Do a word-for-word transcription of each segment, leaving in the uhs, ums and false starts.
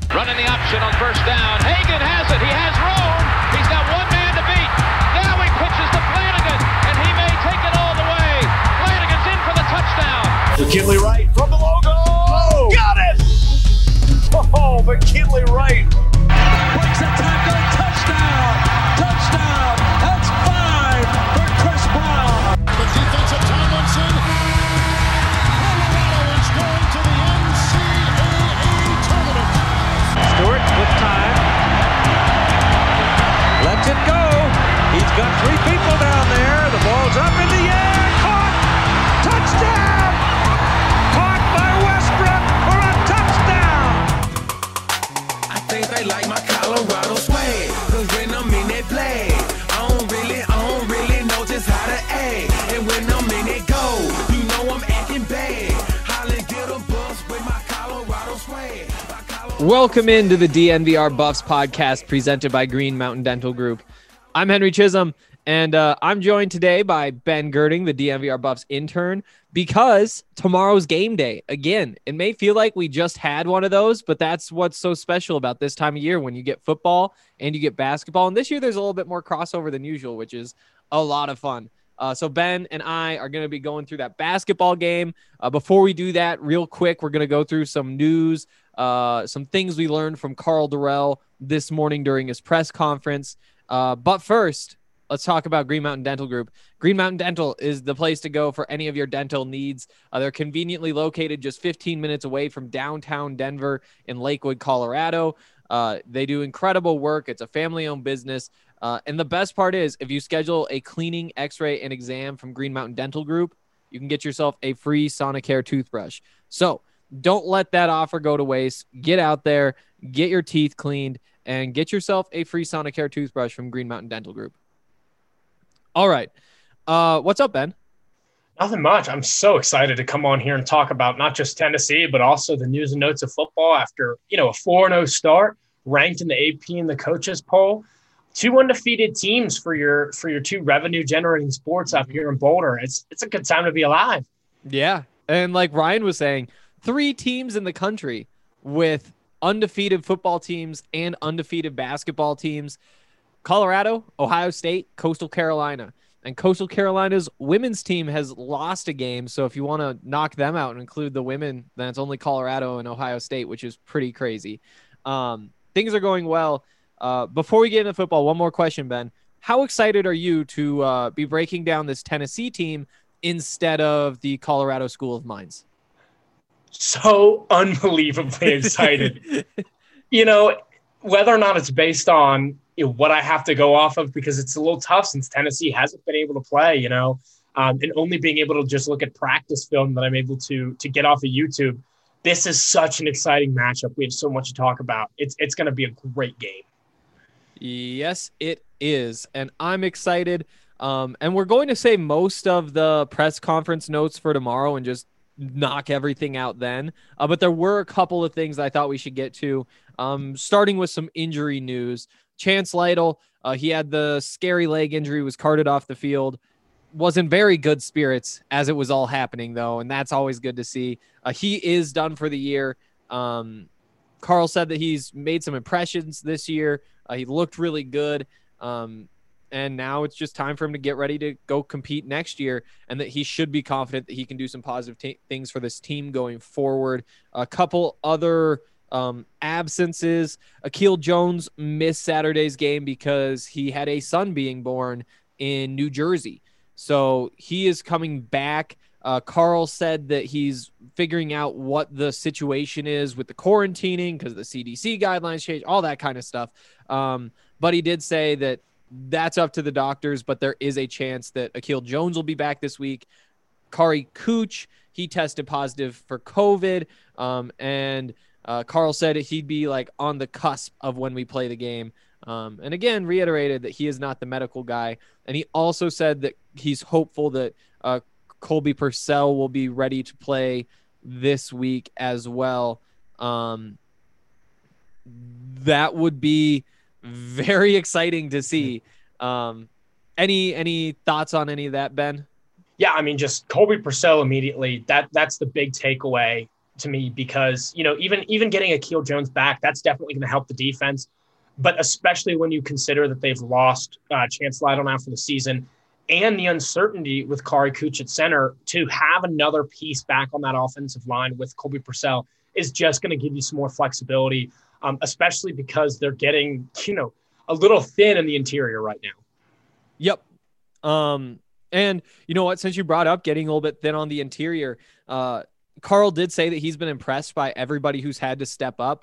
Running the option on first down. Hagan has it. He has room. He's got one man to beat. Now he pitches to Flanagan, and he may take it all the way. Flanagan's in for the touchdown. McKinley Wright from the logo. Oh, got it! Oh, McKinley Wright. Breaks a tackle. Touchdown. Touchdown. That's five for Chris Brown. The defense of Tomlinson. Colorado is going to the N C double A tournament. Stewart with time. Lets it go. He's got three people down there. The ball's up in the air. Caught. Touchdown. Caught by Westbrook for a touchdown. I think they like my Colorado swag. Cause when I'm in that play, I don't really, I don't really know just how to act. And when I'm in it go, you know I'm acting bad. Holly get a bus with my Colorado swag. My Colorado Welcome into the D N V R Buffs podcast presented by Green Mountain Dental Group. I'm Henry Chisholm, and uh, I'm joined today by Ben Girding, the D N V R Buffs intern, because tomorrow's game day. Again, it may feel like we just had one of those, but that's what's so special about this time of year when you get football and you get basketball. And this year there's a little bit more crossover than usual, which is a lot of fun. Uh, so Ben and I are going to be going through that basketball game. Uh, before we do that, real quick, we're going to go through some news, uh, some things we learned from Karl Dorrell this morning during his press conference. Uh, but first, let's talk about Green Mountain Dental Group. Green Mountain Dental is the place to go for any of your dental needs. Uh, they're conveniently located just fifteen minutes away from downtown Denver in Lakewood, Colorado. Uh, they do incredible work. It's a family-owned business. Uh, and the best part is, if you schedule a cleaning, x-ray, and exam from Green Mountain Dental Group, you can get yourself a free Sonicare toothbrush. So don't let that offer go to waste. Get out there, get your teeth cleaned, and get yourself a free Sonicare toothbrush from Green Mountain Dental Group. All right. Uh, what's up, Ben? Nothing much. I'm so excited to come on here and talk about not just Tennessee, but also the news and notes of football after, you know, a four and oh start, ranked in the A P and the coaches poll. Two undefeated teams for your for your two revenue generating sports up here in Boulder. It's it's a good time to be alive. Yeah. And like Ryan was saying, three teams in the country with undefeated football teams and undefeated basketball teams: Colorado, Ohio State, Coastal Carolina. And Coastal Carolina's women's team has lost a game. So if you want to knock them out and include the women, then it's only Colorado and Ohio State, which is pretty crazy. Um, things are going well. Uh, before we get into football, one more question, Ben. How excited are you to uh, be breaking down this Tennessee team instead of the Colorado School of Mines? So unbelievably excited. You know, whether or not it's based on, you know, what I have to go off of, because it's a little tough since Tennessee hasn't been able to play, you know, um, and only being able to just look at practice film that I'm able to to get off of YouTube. This is such an exciting matchup. We have so much to talk about. It's it's going to be a great game. Yes, it is. And I'm excited. Um, and we're going to say most of the press conference notes for tomorrow and just knock everything out then. Uh, but there were a couple of things I thought we should get to, um, starting with some injury news. Chance Lytle, uh, he had the scary leg injury, was carted off the field. Was in very good spirits as it was all happening, though, and that's always good to see. Uh, he is done for the year. Um, Karl said that he's made some impressions this year. Uh, he looked really good. Um, and now it's just time for him to get ready to go compete next year, and that he should be confident that he can do some positive t- things for this team going forward. A couple other um, absences. Akil Jones missed Saturday's game because he had a son being born in New Jersey. So he is coming back. Uh, Karl said that he's figuring out what the situation is with the quarantining because the C D C guidelines change, all that kind of stuff. Um, but he did say that that's up to the doctors, but there is a chance that Akil Jones will be back this week. Kari Cooch, he tested positive for COVID. Um, and uh, Karl said he'd be like on the cusp of when we play the game. Um, and again, reiterated that he is not the medical guy. And he also said that he's hopeful that uh, Colby Purcell will be ready to play this week as well. Um, that would be very exciting to see. Um, any any thoughts on any of that, Ben? Yeah, I mean, just Colby Purcell immediately. That that's the big takeaway. to me because, you know, even even getting Akil Jones back, that's definitely going to help the defense. But especially when you consider that they've lost uh, Chance Lytle now for the season and the uncertainty with Kari Kuch at center, to have another piece back on that offensive line with Colby Purcell is just going to give you some more flexibility, um, especially because they're getting, you know, a little thin in the interior right now. Yep. Um, and you know what, since you brought up getting a little bit thin on the interior, uh, Carl did say that he's been impressed by everybody who's had to step up.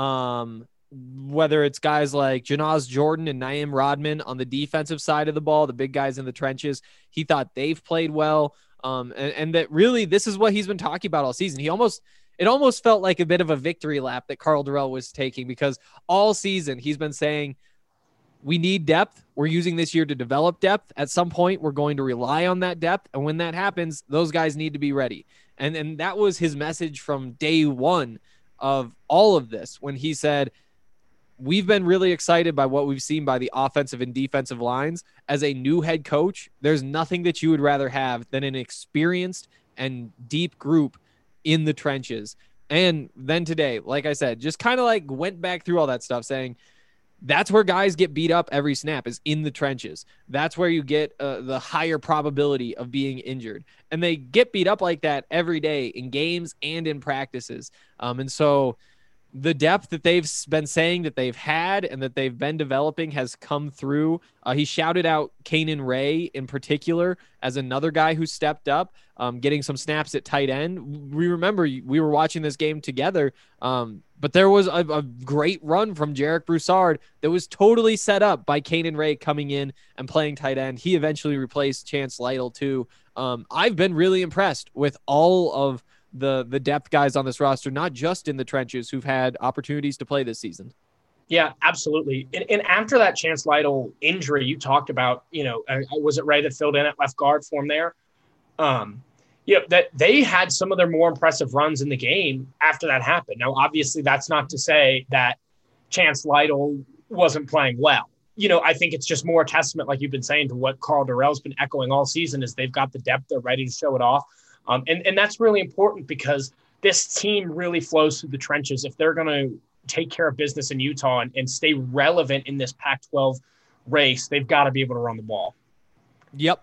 Um, whether it's guys like Janaz Jordan and Naeem Rodman on the defensive side of the ball, the big guys in the trenches, he thought they've played well. Um, and, and that really, this is what he's been talking about all season. He almost, it almost felt like a bit of a victory lap that Karl Dorrell was taking, because all season he's been saying, we need depth. We're using this year to develop depth. At some point, we're going to rely on that depth. And when that happens, those guys need to be ready. And, and that was his message from day one of all of this, when he said, we've been really excited by what we've seen by the offensive and defensive lines. As a new head coach, there's nothing that you would rather have than an experienced and deep group in the trenches. And then today, like I said, just kind of like went back through all that stuff, saying that's where guys get beat up every snap, is in the trenches. That's where you get uh, the higher probability of being injured. And they get beat up like that every day in games and in practices. Um, and so the depth that they've been saying that they've had and that they've been developing has come through. Uh, he shouted out Kanan Ray in particular as another guy who stepped up, um, getting some snaps at tight end. We remember we were watching this game together, um, but there was a, a great run from Jarek Broussard that was totally set up by Kanan Ray coming in and playing tight end. He eventually replaced Chance Lytle too. Um, I've been really impressed with all of the the depth guys on this roster, not just in the trenches, who've had opportunities to play this season. Yeah, absolutely. And, and after that Chance Lytle injury, you talked about, you know, uh, was it Ray that filled in at left guard for him there? Um, you know, that they had some of their more impressive runs in the game after that happened. Now, obviously, that's not to say that Chance Lytle wasn't playing well. You know, I think it's just more a testament, like you've been saying, to what Karl Dorrell's been echoing all season, is they've got the depth, they're ready to show it off. Um, and, and that's really important, because this team really flows through the trenches. If they're going to take care of business in Utah and, and stay relevant in this Pac twelve race, they've got to be able to run the ball. Yep.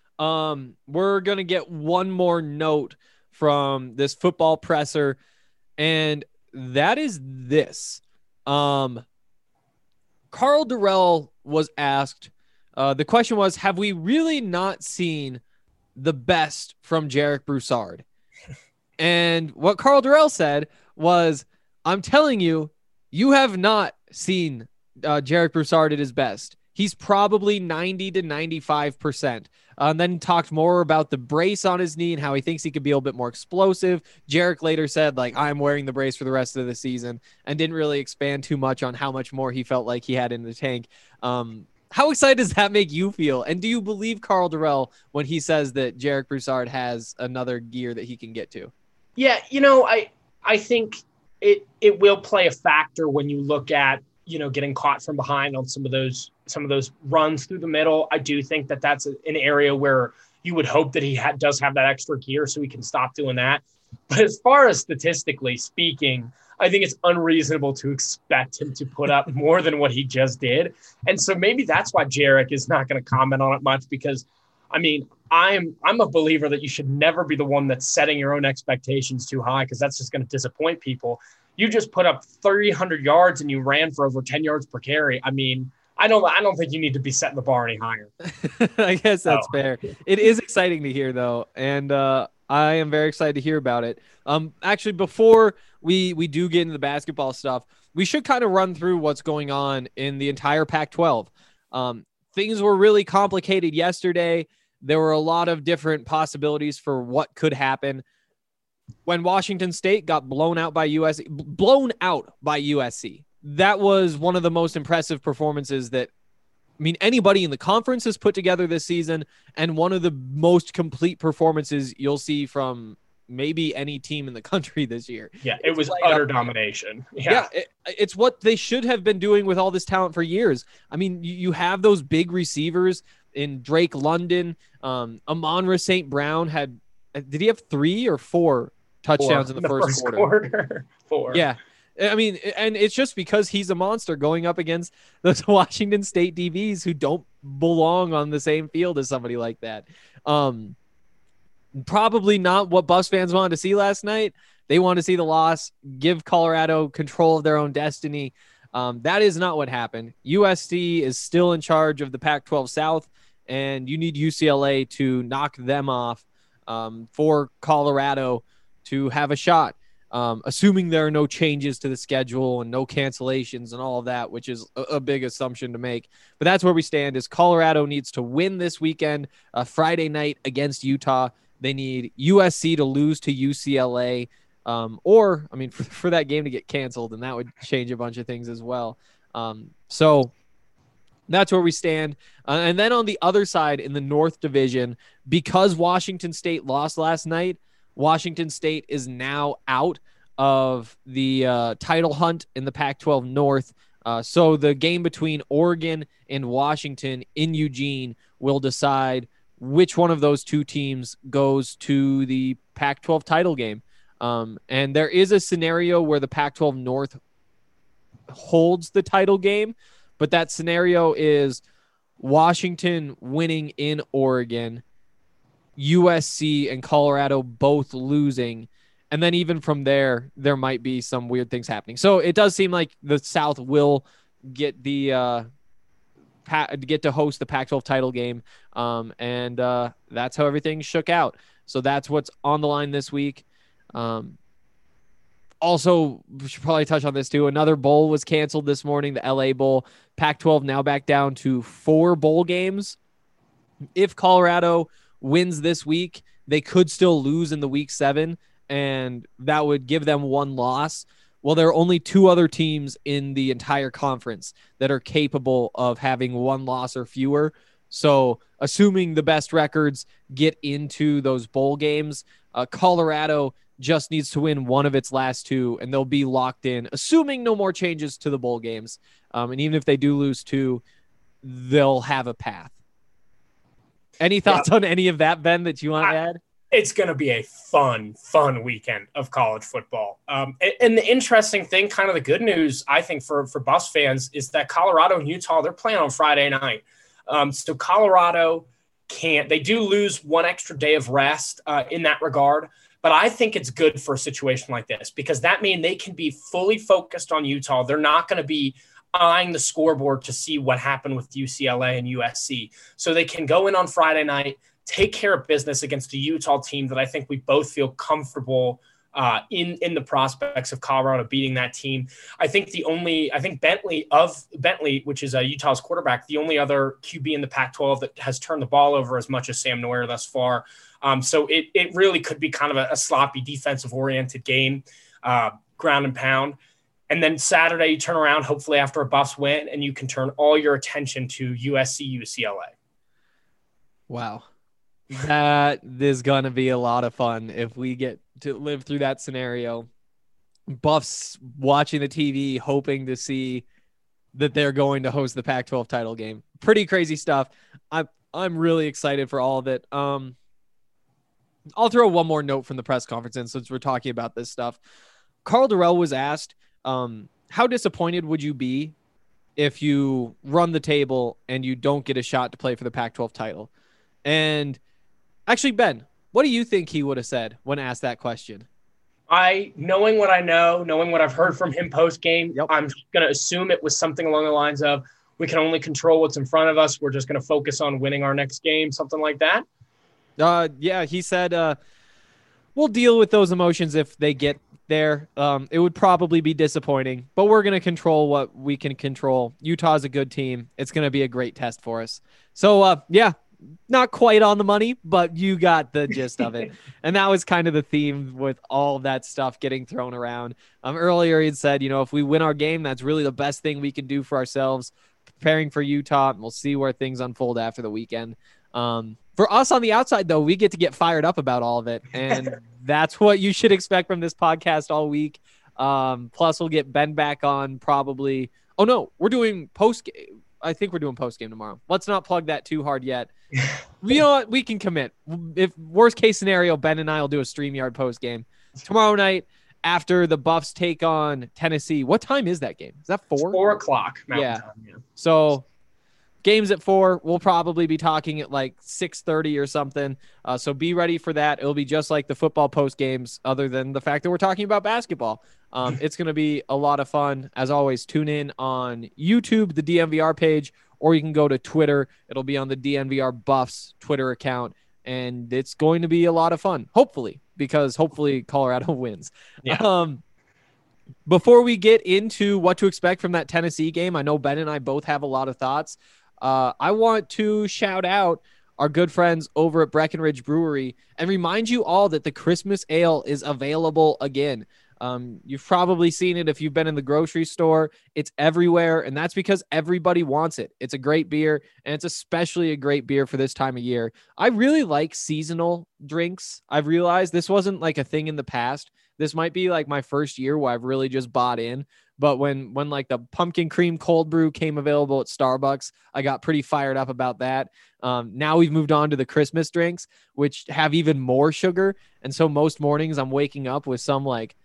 Um, we're going to get one more note from this football presser, and that is this. Um, Karl Dorrell was asked, uh, the question was, have we really not seen the best from Jarek Broussard? And what Karl Dorrell said was, I'm telling you, you have not seen uh, Jarek Broussard at his best. He's probably ninety to ninety-five percent. Uh, and then he talked more about the brace on his knee and how he thinks he could be a little bit more explosive. Jarek later said, like, I'm wearing the brace for the rest of the season, and didn't really expand too much on how much more he felt like he had in the tank. Um, How excited does that make you feel? And do you believe Karl Dorrell when he says that Jarek Broussard has another gear that he can get to? Yeah, you know, I I think it it will play a factor when you look at, you know, getting caught from behind on some of those some of those runs through the middle. I do think that that's an area where you would hope that he ha- does have that extra gear so he can stop doing that. But as far as statistically speaking, I think it's unreasonable to expect him to put up more than what he just did. And so maybe that's why Jarek is not going to comment on it much, because, I mean, I'm I'm a believer that you should never be the one that's setting your own expectations too high, because that's just going to disappoint people. You just put up three hundred yards and you ran for over ten yards per carry. I mean, I don't I don't think you need to be setting the bar any higher. I guess that's oh. fair. It is exciting to hear, though, and uh, I am very excited to hear about it. Um, actually, before we we do get into the basketball stuff, we should kind of run through what's going on in the entire Pac twelve. Um, things were really complicated yesterday. There were a lot of different possibilities for what could happen. When Washington State got blown out by U S C, blown out by U S C, that was one of the most impressive performances that, I mean, anybody in the conference has put together this season, and one of the most complete performances you'll see from maybe any team in the country this year. Yeah, it It's was played utter up. domination. Yeah, Yeah, it, it's what they should have been doing with all this talent for years. I mean, you, you have those big receivers in Drake London. Um, Amon-Ra Saint Brown had, did he have three or four touchdowns Four. in the, the first, first quarter. quarter. Four. Yeah. I mean, and it's just because he's a monster going up against those Washington State D Bs who don't belong on the same field as somebody like that. Um, probably not what Buffs fans wanted to see last night. They want to see the loss, give Colorado control of their own destiny. Um, that is not what happened. U S C is still in charge of the Pac twelve South, and you need U C L A to knock them off um, for Colorado to have a shot. Um, assuming there are no changes to the schedule and no cancellations and all of that, which is a, a big assumption to make. But that's where we stand is Colorado needs to win this weekend, uh, Friday night against Utah. They need U S C to lose to U C L A, um, or, I mean, for, for that game to get canceled, and that would change a bunch of things as well. Um, so that's where we stand. Uh, and then on the other side in the North Division, because Washington State lost last night, Washington State is now out of the uh, title hunt in the Pac twelve North. Uh, so the game between Oregon and Washington in Eugene will decide which one of those two teams goes to the Pac twelve title game. Um, and there is a scenario where the Pac twelve North holds the title game, but that scenario is Washington winning in Oregon, U S C and Colorado both losing. And then even from there, there might be some weird things happening. So it does seem like the South will get the uh, pa- get to host the Pac twelve title game. Um, and uh, that's how everything shook out. So that's what's on the line this week. Um, also, we should probably touch on this too. Another bowl was canceled this morning, the L A Bowl. Pac twelve now back down to four bowl games. If Colorado wins this week, they could still lose in the week seven, and that would give them one loss. Well, there are only two other teams in the entire conference that are capable of having one loss or fewer. So assuming the best records get into those bowl games, uh, Colorado just needs to win one of its last two, and they'll be locked in, assuming no more changes to the bowl games. Um, and even if they do lose two, they'll have a path. Any thoughts yeah. on any of that, Ben, that you want to add? It's going to be a fun, fun weekend of college football. Um, and, and the interesting thing, kind of the good news, I think, for, for Buffs fans is that Colorado and Utah, they're playing on Friday night. Um, so Colorado can't – they do lose one extra day of rest uh, in that regard. But I think it's good for a situation like this because that means they can be fully focused on Utah. They're not going to be – eyeing the scoreboard to see what happened with U C L A and U S C. So they can go in on Friday night, take care of business against a Utah team that I think we both feel comfortable uh, in, in the prospects of Colorado beating that team. I think the only, I think Bentley of Bentley, which is a Utah's quarterback, the only other Q B in the Pac twelve that has turned the ball over as much as Sam Noyer thus far. Um, so it, it really could be kind of a, a sloppy defensive oriented game, uh, ground and pound. And then Saturday, you turn around, hopefully after a Buffs win, and you can turn all your attention to U S C, U C L A. Wow. That is going to be a lot of fun if we get to live through that scenario. Buffs watching the T V, hoping to see that they're going to host the Pac twelve title game. Pretty crazy stuff. I'm, I'm really excited for all of it. Um, I'll throw one more note from the press conference in since we're talking about this stuff. Karl Dorrell was asked, Um, how disappointed would you be if you run the table and you don't get a shot to play for the Pac twelve title? And actually, Ben, what do you think he would have said when asked that question? I, knowing what I know, knowing what I've heard from him post-game, yep. I'm going to assume it was something along the lines of, we can only control what's in front of us. We're just going to focus on winning our next game, something like that. Uh, yeah, he said, uh, we'll deal with those emotions if they get there. Um, it would probably be disappointing, but we're going to control what we can control. Utah's a good team. It's going to be a great test for us. So, uh, yeah, not quite on the money, but you got the gist of it. And that was kind of the theme with all of that stuff getting thrown around. Um, earlier he had said, you know, if we win our game, that's really the best thing we can do for ourselves, preparing for Utah. And we'll see where things unfold after the weekend. Um, for us on the outside, though, we get to get fired up about all of it. And that's what you should expect from this podcast all week. Um, plus, we'll get Ben back on probably. Oh, no, we're doing post game. I think we're doing post game tomorrow. Let's not plug that too hard yet. You know what? We can commit. If worst case scenario, Ben and I will do a StreamYard post game. tomorrow night after the Buffs take on Tennessee. What time is that game? Is that four? Four o'clock Mountain Yeah. Time. Yeah. So games at four. We'll probably be talking at like six thirty or something. Uh, so be ready for that. It'll be just like the football post games, other than the fact that we're talking about basketball. Um, it's going to be a lot of fun. As always, tune in on YouTube, the D N V R page, or you can go to Twitter. It'll be on the D N V R Buffs Twitter account, and it's going to be a lot of fun, hopefully, because hopefully Colorado wins. Yeah. Um, before we get into what to expect from that Tennessee game, I know Ben and I both have a lot of thoughts. Uh, I want to shout out our good friends over at Breckenridge Brewery and remind you all that the Christmas Ale is available again. Um, you've probably seen it if you've been in the grocery store. It's everywhere, and that's because everybody wants it. It's a great beer, and it's especially a great beer for this time of year. I really like seasonal drinks. I've realized this wasn't like a thing in the past. This might be like my first year where I've really just bought in. But when when like the pumpkin cream cold brew came available at Starbucks, I got pretty fired up about that. Um, now we've moved on to the Christmas drinks, which have even more sugar. And so most mornings I'm waking up with some like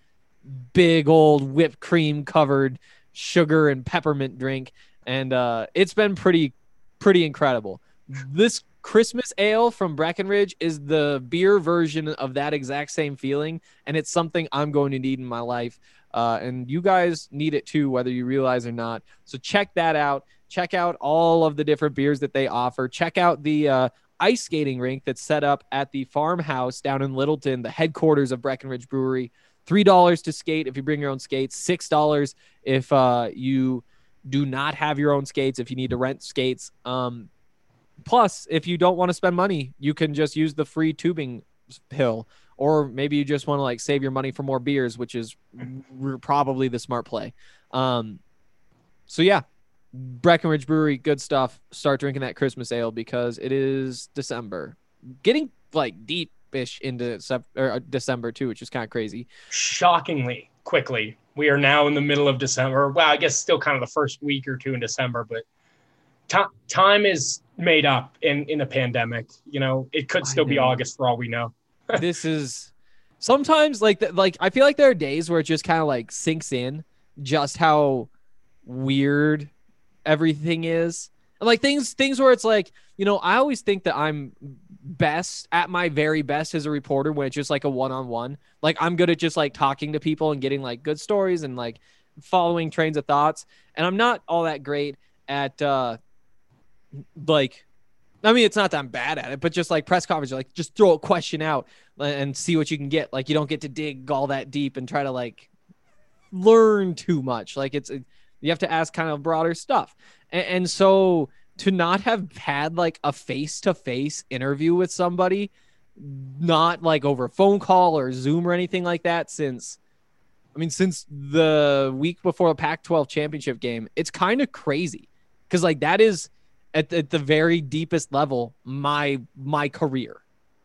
big old whipped cream covered sugar and peppermint drink. And uh, it's been pretty, pretty incredible. This Christmas ale from Breckenridge is the beer version of that exact same feeling. And it's something I'm going to need in my life. Uh, and you guys need it too, whether you realize or not. So check that out. Check out all of the different beers that they offer. Check out the uh, ice skating rink that's set up at the farmhouse down in Littleton, the headquarters of Breckenridge Brewery. three dollars to skate if you bring your own skates. six dollars if uh, you do not have your own skates, if you need to rent skates. Um, plus, if you don't want to spend money, you can just use the free tubing hill. Or maybe you just want to like save your money for more beers, which is r- probably the smart play. Um, so yeah, Breckenridge Brewery, good stuff. Start drinking that Christmas ale because it is December, getting like deep-ish into sep- or uh, December too, which is kind of crazy. Shockingly quickly, we are now in the middle of December. Well, I guess still kind of the first week or two in December, but t- time is made up in in a pandemic. You know, it could still be August for all we know. This is sometimes like the, like I feel like there are days where it just kind of like sinks in just how weird everything is. And like things things where it's like, you know, I always think that I'm best at my very best as a reporter when it's just like a one-on-one. Like I'm good at just like talking to people and getting like good stories and like following trains of thoughts. And I'm not all that great at uh like I mean, it's not that I'm bad at it, but just like press conference, like just throw a question out and see what you can get. Like you don't get to dig all that deep and try to like learn too much. Like it's, you have to ask kind of broader stuff. And, and so to not have had like a face-to-face interview with somebody, not like over phone call or Zoom or anything like that since, I mean, since the week before the Pac twelve championship game, it's kind of crazy. Cause like that is, At, at the very deepest level, my my career.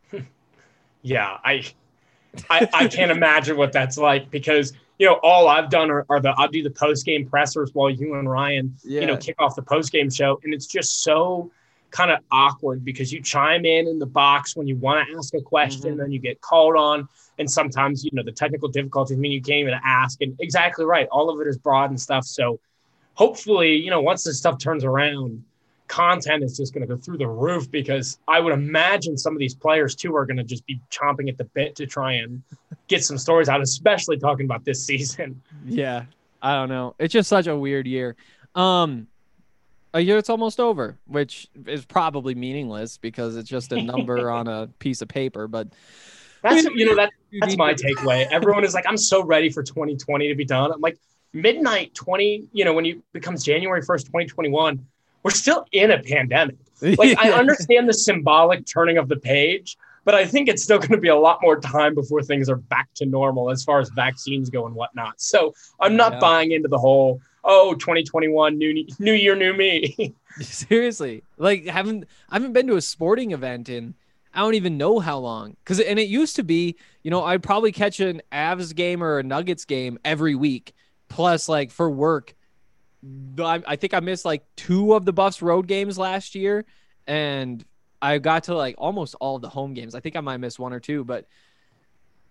Yeah, I, I I can't imagine what that's like because you know all I've done are, are the I'll do the post game pressers while you and Ryan Yeah. you know kick off the post game show, and it's just so kind of awkward because you chime in in the box when you want to ask a question, Mhm. then you get called on, and sometimes you know the technical difficulties mean you can't even ask. And exactly right, all of it is broad and stuff. So hopefully, you know, once this stuff turns around, content is just going to go through the roof because I would imagine some of these players too are going to just be chomping at the bit to try and get some stories out, especially talking about this season. Yeah, I don't know. It's just such a weird year. Um, a year it's almost over, which is probably meaningless because it's just a number on a piece of paper. But That's you know that that's my takeaway. Everyone is like, I'm so ready for twenty twenty to be done. I'm like, midnight twenty, you know, when it becomes January first, twenty twenty-one. We're still in a pandemic. Like, I understand the symbolic turning of the page, but I think it's still going to be a lot more time before things are back to normal as far as vaccines go and whatnot. So I'm not Yeah. buying into the whole, oh, twenty twenty-one, new new year, new me. Seriously, like haven't I haven't been to a sporting event in I don't even know how long. Cause and it used to be, you know, I'd probably catch an Avs game or a Nuggets game every week. Plus, like for work, I, I think I missed like two of the Buffs road games last year, and I got to like almost all of the home games. I think I might miss one or two, but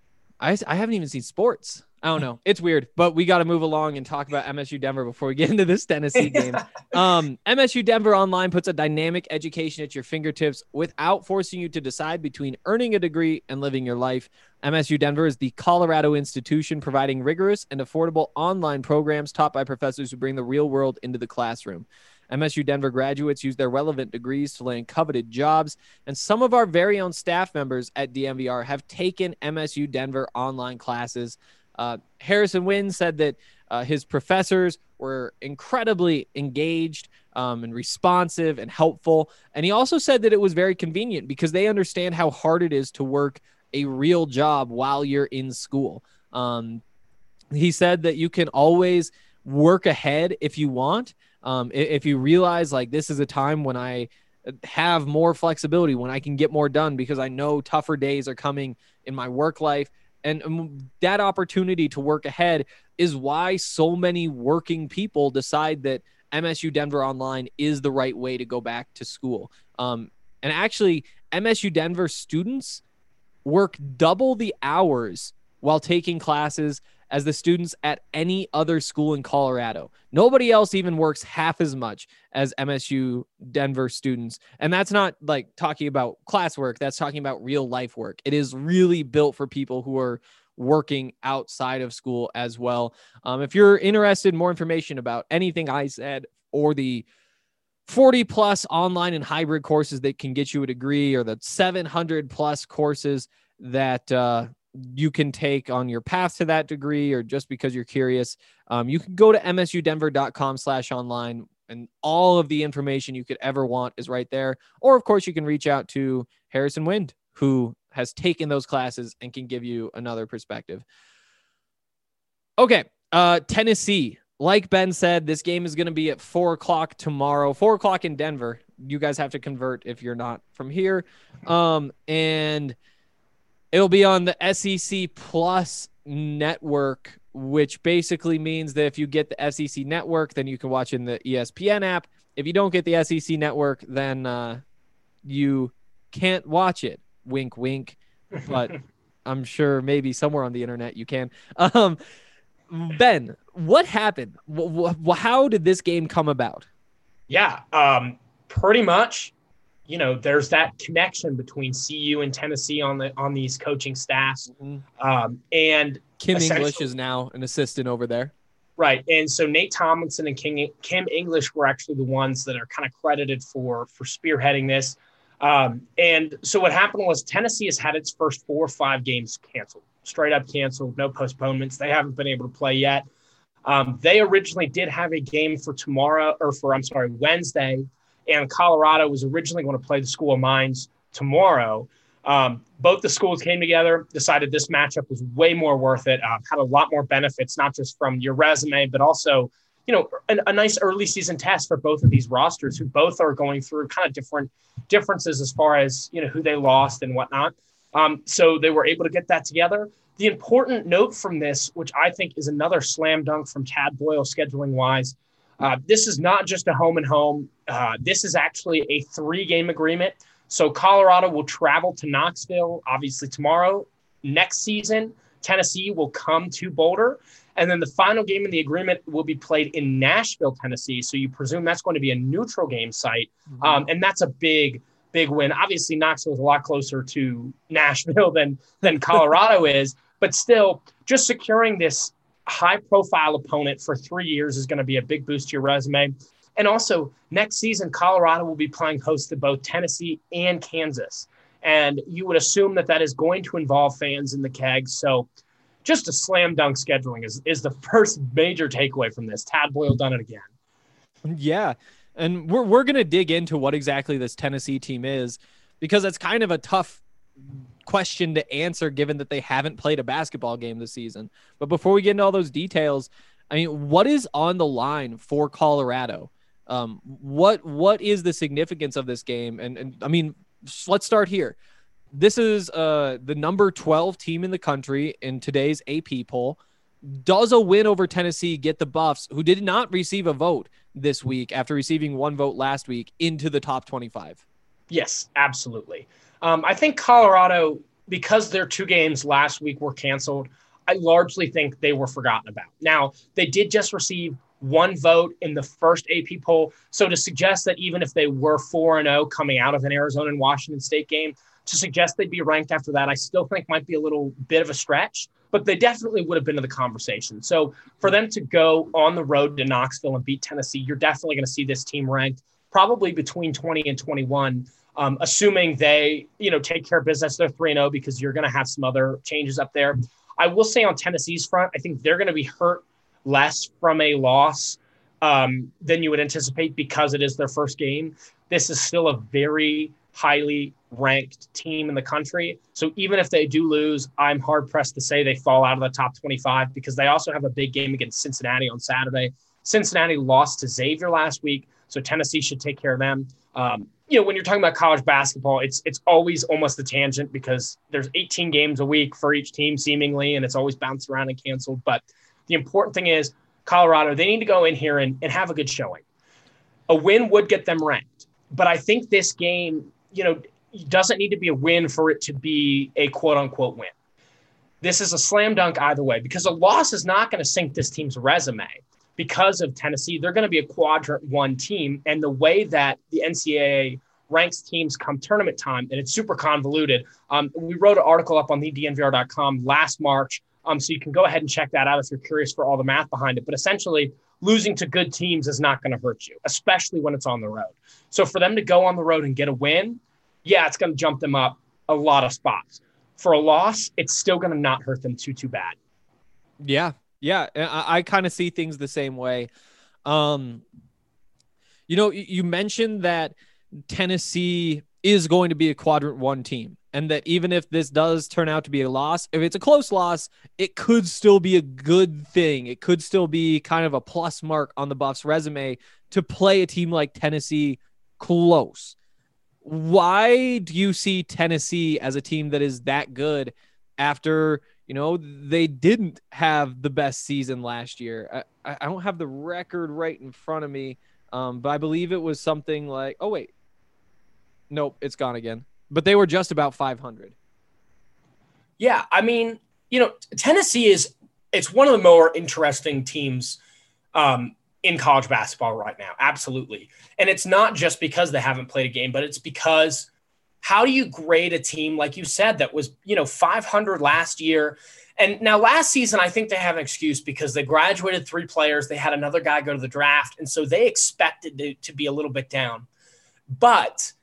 I, I haven't even seen sports. I don't know. It's weird, but we got to move along and talk about M S U Denver before we get into this Tennessee game. um, M S U Denver Online puts a dynamic education at your fingertips without forcing you to decide between earning a degree and living your life. M S U Denver is the Colorado institution providing rigorous and affordable online programs taught by professors who bring the real world into the classroom. M S U Denver graduates use their relevant degrees to land coveted jobs, and some of our very own staff members at D M V R have taken M S U Denver online classes. Uh, Harrison Wind said that uh, his professors were incredibly engaged um, and responsive and helpful. And he also said that it was very convenient because they understand how hard it is to work a real job while you're in school. Um, he said that you can always work ahead if you want. Um, if you realize like this is a time when I have more flexibility, when I can get more done because I know tougher days are coming in my work life. And that opportunity to work ahead is why so many working people decide that M S U Denver Online is the right way to go back to school. Um, and actually, M S U Denver students work double the hours while taking classes as the students at any other school in Colorado. Nobody else even works half as much as M S U Denver students. And that's not like talking about classwork. That's talking about real life work. It is really built for people who are working outside of school as well. Um, if you're interested in more information about anything I said or the forty plus online and hybrid courses that can get you a degree or the seven hundred plus courses that, uh, you can take on your path to that degree or just because you're curious, um, you can go to m s u denver dot com slash online and all of the information you could ever want is right there. Or of course you can reach out to Harrison Wind, who has taken those classes and can give you another perspective. Okay. Uh, Tennessee, like Ben said, this game is going to be at four o'clock tomorrow, four o'clock in Denver. You guys have to convert if you're not from here. Um, and it'll be on the S E C Plus network, which basically means that if you get the S E C network, then you can watch in the E S P N app. If you don't get the S E C network, then uh, you can't watch it. Wink, wink. But I'm sure maybe somewhere on the internet you can. Um, Ben, what happened? W- w- how did this game come about? Yeah, um, pretty much. You know, there's that connection between C U and Tennessee on the on these coaching staffs. Mm-hmm. Um, and Kim English is now an assistant over there. Right. And so Nate Tomlinson and King, Kim English were actually the ones that are kind of credited for, for spearheading this. Um, and so what happened was Tennessee has had its first four or five games canceled, straight up canceled, no postponements. They haven't been able to play yet. Um, they originally did have a game for tomorrow or for, I'm sorry, Wednesday. And Colorado was originally going to play the School of Mines tomorrow. Um, both the schools came together, decided this matchup was way more worth it, uh, had a lot more benefits, not just from your resume, but also, you know, a, a nice early season test for both of these rosters who both are going through kind of different differences as far as, you know, who they lost and whatnot. Um, so they were able to get that together. The important note from this, which I think is another slam dunk from Tad Boyle scheduling wise, Uh, this is not just a home and home. Uh, this is actually a three-game agreement. So Colorado will travel to Knoxville, obviously tomorrow. Next season, Tennessee will come to Boulder. And then the final game in the agreement will be played in Nashville, Tennessee. So you presume that's going to be a neutral game site. Mm-hmm. Um, and that's a big, big win. Obviously, Knoxville is a lot closer to Nashville than, than Colorado is. But still, just securing this high-profile opponent for three years is going to be a big boost to your resume. And also, next season, Colorado will be playing host to both Tennessee and Kansas. And you would assume that that is going to involve fans in the Kegs. So just a slam dunk scheduling is, is the first major takeaway from this. Tad Boyle done it again. Yeah, and we're, we're going to dig into what exactly this Tennessee team is, because it's kind of a tough question to answer given that they haven't played a basketball game this season. But before we get into all those details, I mean, what is on the line for Colorado? Um, what what is the significance of this game? And, and I mean, let's start here. This is uh, the number twelve team in the country in today's A P poll. Does a win over Tennessee get the Buffs, who did not receive a vote this week after receiving one vote last week, into the top twenty-five? Yes, absolutely. Um, I think Colorado, because their two games last week were canceled, I largely think they were forgotten about. Now, they did just receive one vote in the first A P poll. So to suggest that even if they were four and oh coming out of an Arizona and Washington State game, to suggest they'd be ranked after that, I still think might be a little bit of a stretch, but they definitely would have been in the conversation. So for them to go on the road to Knoxville and beat Tennessee, you're definitely going to see this team ranked probably between twenty and twenty-one, um, assuming they, you know, take care of business. They're three and oh because you're going to have some other changes up there. I will say on Tennessee's front, I think they're going to be hurt less from a loss um, than you would anticipate because it is their first game. This is still a very highly ranked team in the country. So even if they do lose, I'm hard pressed to say they fall out of the top twenty-five because they also have a big game against Cincinnati on Saturday. Cincinnati lost to Xavier last week, so Tennessee should take care of them. Um, you know, when you're talking about college basketball, it's it's always almost a tangent because there's eighteen games a week for each team seemingly, and it's always bounced around and canceled. But the important thing is Colorado, they need to go in here and, and have a good showing. A win would get them ranked. But I think this game, you know, doesn't need to be a win for it to be a quote-unquote win. This is a slam dunk either way because a loss is not going to sink this team's resume. Because of Tennessee, they're going to be a quadrant one team. And the way that the N C double A ranks teams come tournament time, and it's super convoluted. Um, we wrote an article up on the D N V R dot com last March, um, so you can go ahead and check that out if you're curious for all the math behind it. But essentially, losing to good teams is not going to hurt you, especially when it's on the road. So for them to go on the road and get a win, yeah, it's going to jump them up a lot of spots. For a loss, it's still going to not hurt them too, too bad. Yeah. Yeah. I, I kind of see things the same way. Um, you know, you mentioned that Tennessee is going to be a quadrant one team, and that even if this does turn out to be a loss, if it's a close loss, it could still be a good thing. It could still be kind of a plus mark on the Buffs resume to play a team like Tennessee close. Why do you see Tennessee as a team that is that good after, you know, they didn't have the best season last year? I, I don't have the record right in front of me, um, but I believe it was something like, oh, wait. Nope, it's gone again. But they were just about five hundred. Yeah, I mean, you know, Tennessee is it's one of the more interesting teams um, in college basketball right now. Absolutely. And it's not just because they haven't played a game, but it's because how do you grade a team, like you said, that was, you know, five hundred last year? And now last season, I think they have an excuse because they graduated three players. They had another guy go to the draft. And so they expected to, to be a little bit down. But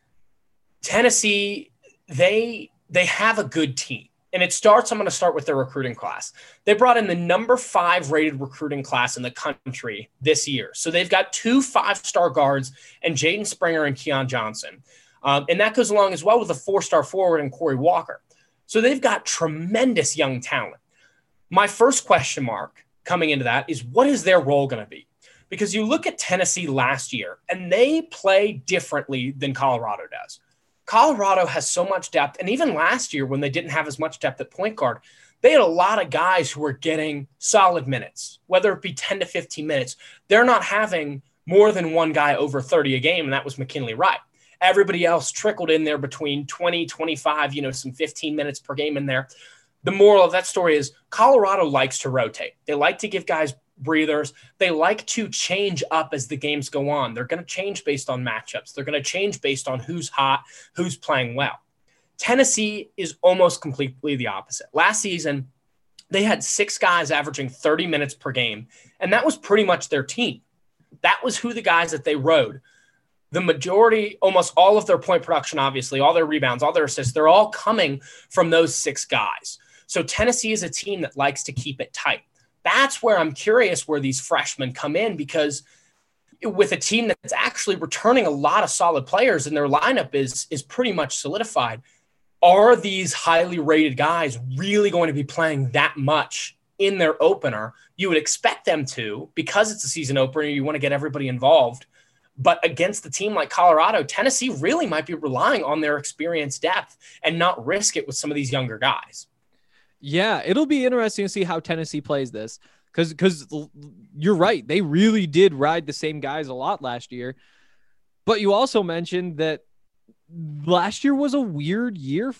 Tennessee, they they have a good team. And it starts, I'm going to start with their recruiting class. They brought in the number five rated recruiting class in the country this year. So they've got two five-star guards and Jaden Springer and Keon Johnson. Um, and that goes along as well with a four-star forward and Corey Walker. So they've got tremendous young talent. My first question mark coming into that is, what is their role going to be? Because you look at Tennessee last year, and they play differently than Colorado does. Colorado has so much depth, and even last year when they didn't have as much depth at point guard, they had a lot of guys who were getting solid minutes, whether it be ten to fifteen minutes. They're not having more than one guy over thirty a game, and that was McKinley Wright. Everybody else trickled in there between twenty, twenty-five, you know, some fifteen minutes per game in there. The moral of that story is Colorado likes to rotate. They like to give guys breathers. They like to change up as the games go on. They're going to change based on matchups. They're going to change based on who's hot, who's playing well. Tennessee is almost completely the opposite. Last season, they had six guys averaging thirty minutes per game, and that was pretty much their team. That was who the guys that they rode. The majority, almost all of their point production, obviously, all their rebounds, all their assists, they're all coming from those six guys. So Tennessee is a team that likes to keep it tight. That's where I'm curious where these freshmen come in, because with a team that's actually returning a lot of solid players and their lineup is, is pretty much solidified, are these highly rated guys really going to be playing that much in their opener? You would expect them to, because it's a season opener. You want to get everybody involved. But against a team like Colorado, Tennessee really might be relying on their experience depth and not risk it with some of these younger guys. Yeah, it'll be interesting to see how Tennessee plays this, because because you're right. They really did ride the same guys a lot last year. But you also mentioned that last year was a weird year for them.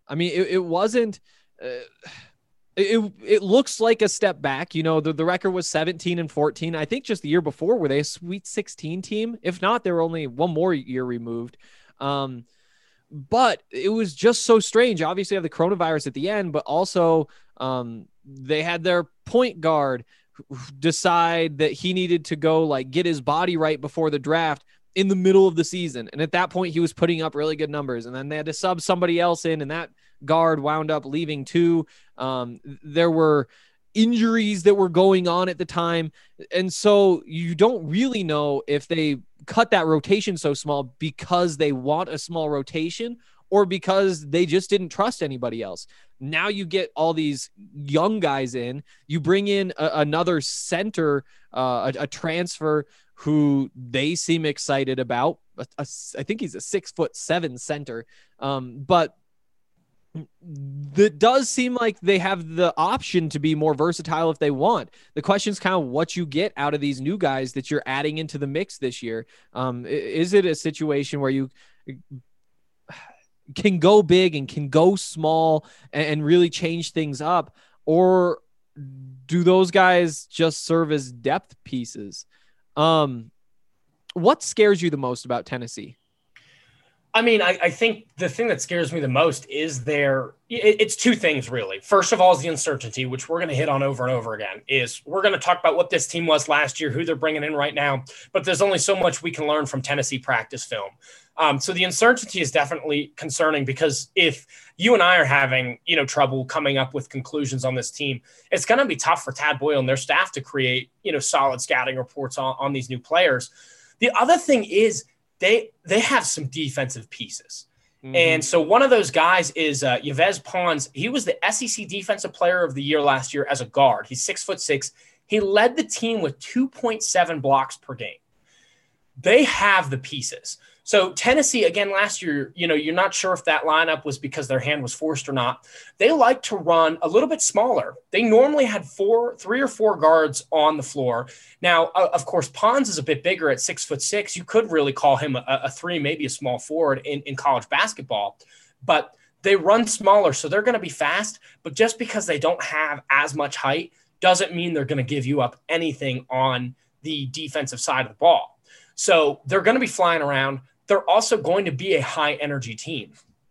I mean, it, it wasn't, uh, it, it looks like a step back. You know, the, the record was seventeen and fourteen. I think just the year before, were they a Sweet sixteen team? If not, they were only one more year removed. Um, but it was just so strange. Obviously, you have the coronavirus at the end, but also um, they had their point guard decide that he needed to go like get his body right before the draft in the middle of the season. And at that point he was putting up really good numbers, and then they had to sub somebody else in, and that guard wound up leaving too. Um, there were injuries that were going on at the time. And so you don't really know if they cut that rotation so small because they want a small rotation or because they just didn't trust anybody else. Now you get all these young guys in, you bring in a, another center, uh, a, a transfer who they seem excited about. A, a, I think he's a six foot seven center. Um, but that does seem like they have the option to be more versatile if they want. The question is kind of what you get out of these new guys that you're adding into the mix this year. Um, is it a situation where you can go big and can go small and, and really change things up, or do those guys just serve as depth pieces? Um, what scares you the most about Tennessee? I mean, I, I think the thing that scares me the most is their it, it's two things, really. First of all is the uncertainty, which we're going to hit on over and over again, is we're going to talk about what this team was last year, who they're bringing in right now, but there's only so much we can learn from Tennessee practice film. Um, so the uncertainty is definitely concerning, because if you and I are having, you know, trouble coming up with conclusions on this team, it's going to be tough for Tad Boyle and their staff to create, you know, solid scouting reports on, on these new players. The other thing is, They they have some defensive pieces. Mm-hmm. And so one of those guys is uh, Yves Pons. He was the S E C Defensive Player of the Year last year as a guard. He's six foot six. He led the team with two point seven blocks per game. They have the pieces. So Tennessee, again, last year, you know, you're not sure if that lineup was because their hand was forced or not. They like to run a little bit smaller. They normally had four, three or four guards on the floor. Now, uh, of course, Pons is a bit bigger at six foot six. You could really call him a, a three, maybe a small forward in, in college basketball, but they run smaller. So they're going to be fast, but just because they don't have as much height doesn't mean they're going to give you up anything on the defensive side of the ball. So they're going to be flying around. They're also going to be a high energy team.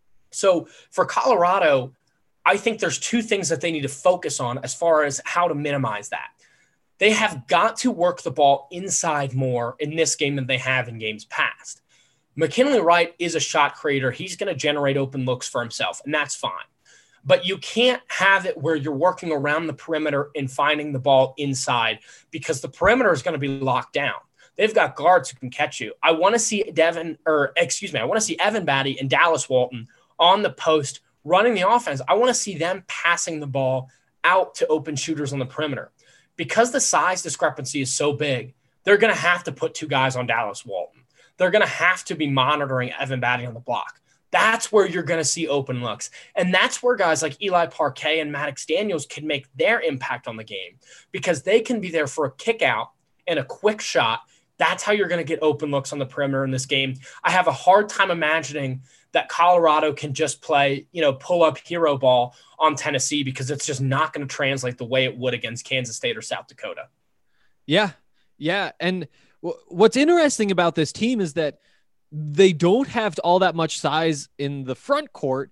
So for Colorado, I think there's two things that they need to focus on as far as how to minimize that. They have got to work the ball inside more in this game than they have in games past. McKinley Wright is a shot creator. He's going to generate open looks for himself, and that's fine. But you can't have it where you're working around the perimeter and finding the ball inside, because the perimeter is going to be locked down. They've got guards who can catch you. I want to see Devin, or excuse me, I want to see Evan Batty and Dallas Walton on the post running the offense. I want to see them passing the ball out to open shooters on the perimeter. Because the size discrepancy is so big, they're going to have to put two guys on Dallas Walton. They're going to have to be monitoring Evan Batty on the block. That's where you're going to see open looks. And that's where guys like Eli Parquet and Maddox Daniels can make their impact on the game, because they can be there for a kick out and a quick shot. That's how you're going to get open looks on the perimeter in this game. I have a hard time imagining that Colorado can just play, you know, pull up hero ball on Tennessee, because it's just not going to translate the way it would against Kansas State or South Dakota. Yeah. Yeah. And w- what's interesting about this team is that they don't have all that much size in the front court,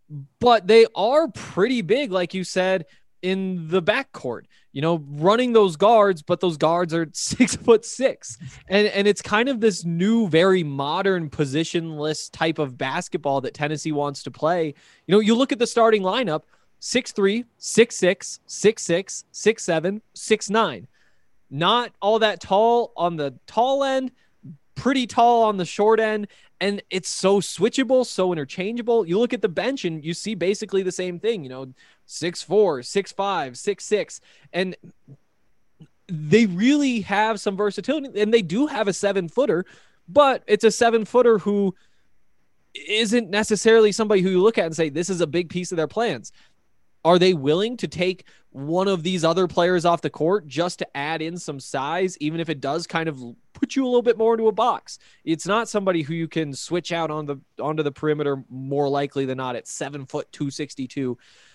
but they are pretty big, like you said, in the back court, you know, running those guards, but those guards are six foot six. And, and it's kind of this new, very modern positionless type of basketball that Tennessee wants to play. You know, you look at the starting lineup, six three, six six, six six, six seven, six nine. Not all that tall on the tall end, pretty tall on the short end. And it's so switchable, so interchangeable. You look at the bench and you see basically the same thing, you know, six four, six five, six six. And they really have some versatility, and they do have a seven footer, but it's a seven footer who isn't necessarily somebody who you look at and say, this is a big piece of their plans. Are they willing to take one of these other players off the court just to add in some size, even if it does kind of put you a little bit more into a box? It's not somebody who you can switch out on the onto the perimeter more likely than not at seven foot two sixty-two.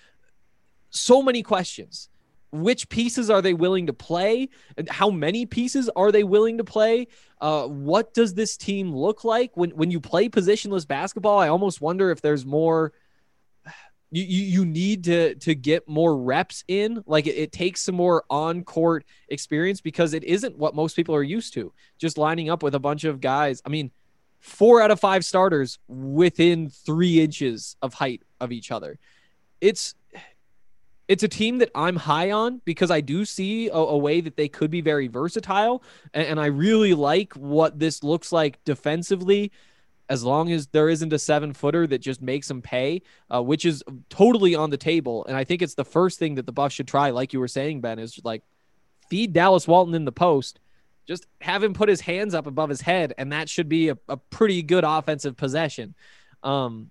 So many questions. Which pieces are they willing to play? How many pieces are they willing to play? Uh, what does this team look like when when you play positionless basketball? I almost wonder if there's more. You, you you need to to get more reps in. Like it, it takes some more on-court experience because it isn't what most people are used to. Just lining up with a bunch of guys. I mean, four out of five starters within three inches of height of each other. It's it's a team that I'm high on because I do see a, a way that they could be very versatile, and, and I really like what this looks like defensively. As long as there isn't a seven footer that just makes them pay, uh, which is totally on the table. And I think it's the first thing that the Buffs should try. Like you were saying, Ben, is like feed Dallas Walton in the post, just have him put his hands up above his head. And that should be a, a pretty good offensive possession. Um,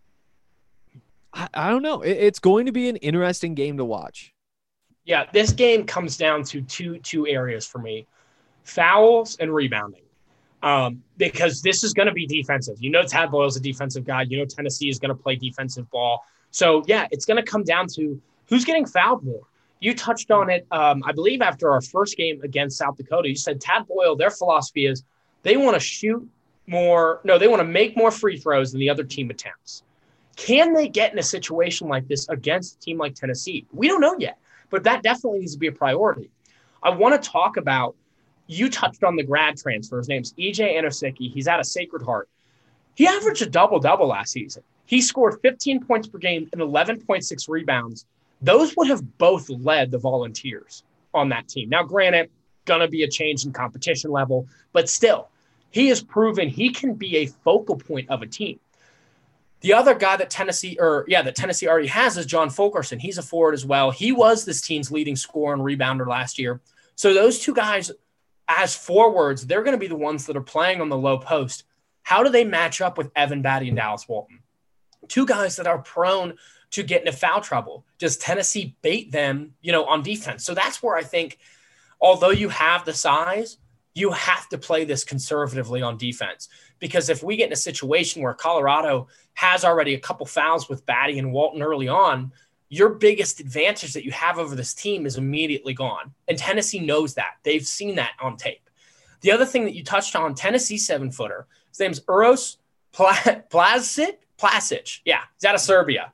I, I don't know. It, it's going to be an interesting game to watch. Yeah. This game comes down to two, two areas for me: fouls and rebounding. Um, because this is going to be defensive. You know, Tad Boyle's a defensive guy. You know, Tennessee is going to play defensive ball. So, yeah, it's going to come down to who's getting fouled more. You touched on it, um, I believe, after our first game against South Dakota. You said Tad Boyle, their philosophy is they want to shoot more. No, they want to make more free throws than the other team attempts. Can they get in a situation like this against a team like Tennessee? We don't know yet, but that definitely needs to be a priority. I want to talk about, you touched on the grad transfer. His name's E J Anosike. He's out of Sacred Heart. He averaged a double-double last season. He scored fifteen points per game and eleven point six rebounds. Those would have both led the Volunteers on that team. Now, granted, going to be a change in competition level, but still, he has proven he can be a focal point of a team. The other guy that Tennessee, or yeah, that Tennessee already has is John Fulkerson. He's a forward as well. He was this team's leading scorer and rebounder last year. So those two guys, as forwards, they're going to be the ones that are playing on the low post. How do they match up with Evan Batty and Dallas Walton? Two guys that are prone to get into foul trouble. Does Tennessee bait them, you know, on defense? So that's where I think, although you have the size, you have to play this conservatively on defense. Because if we get in a situation where Colorado has already a couple fouls with Batty and Walton early on, your biggest advantage that you have over this team is immediately gone. And Tennessee knows that. They've seen that on tape. The other thing that you touched on, Tennessee seven-footer, his name's Uros Plazic. Plazic. Yeah, he's out of Serbia.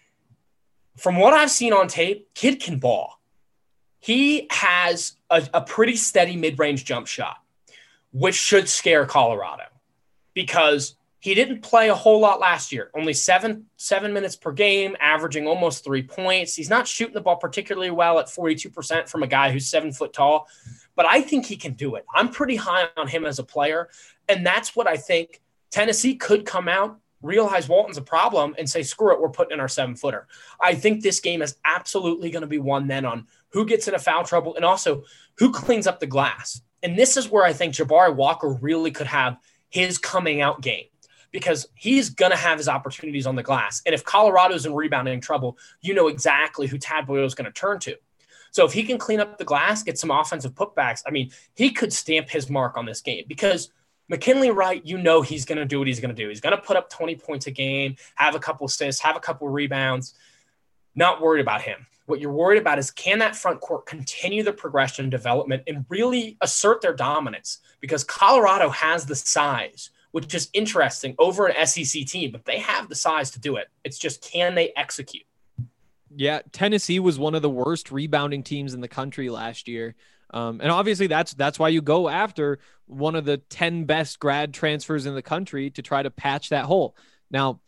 From what I've seen on tape, kid can ball. He has a, a pretty steady mid-range jump shot, which should scare Colorado because he didn't play a whole lot last year, only seven, seven minutes per game, averaging almost three points. He's not shooting the ball particularly well at forty-two percent from a guy who's seven foot tall, but I think he can do it. I'm pretty high on him as a player, and that's what I think Tennessee could come out, realize Walton's a problem, and say, screw it, we're putting in our seven-footer. I think this game is absolutely going to be one then on who gets into foul trouble and also who cleans up the glass. And this is where I think Jabari Walker really could have his coming out game, because he's going to have his opportunities on the glass. And if Colorado's in rebounding trouble, you know exactly who Tad Boyle is going to turn to. So if he can clean up the glass, get some offensive putbacks, I mean, he could stamp his mark on this game, because McKinley Wright, you know he's going to do what he's going to do. He's going to put up twenty points a game, have a couple assists, have a couple rebounds. Not worried about him. What you're worried about is, can that front court continue the progression and development and really assert their dominance? Because Colorado has the size, which is interesting, over an S E C team, but they have the size to do it. It's just, can they execute? Yeah, Tennessee was one of the worst rebounding teams in the country last year. Um, and obviously that's that's why you go after one of the ten best grad transfers in the country to try to patch that hole. Now,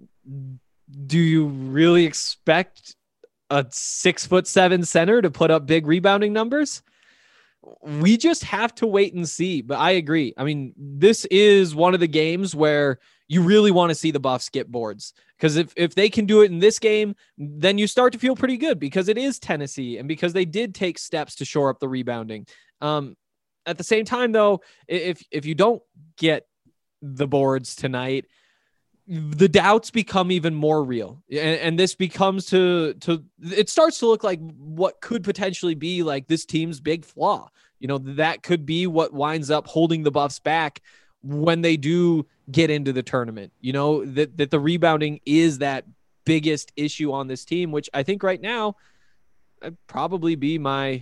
do you really expect a six foot seven center to put up big rebounding numbers? We just have to wait and see. But I agree. I mean, this is one of the games where you really want to see the Buffs get boards, because if, if they can do it in this game, then you start to feel pretty good, because it is Tennessee and because they did take steps to shore up the rebounding. Um, at the same time, though, if, if you don't get the boards tonight, the doubts become even more real. And, and this becomes to, to, it starts to look like what could potentially be like this team's big flaw. You know, that could be what winds up holding the Buffs back when they do get into the tournament. You know, that, that the rebounding is that biggest issue on this team, which I think right now I'd probably be my,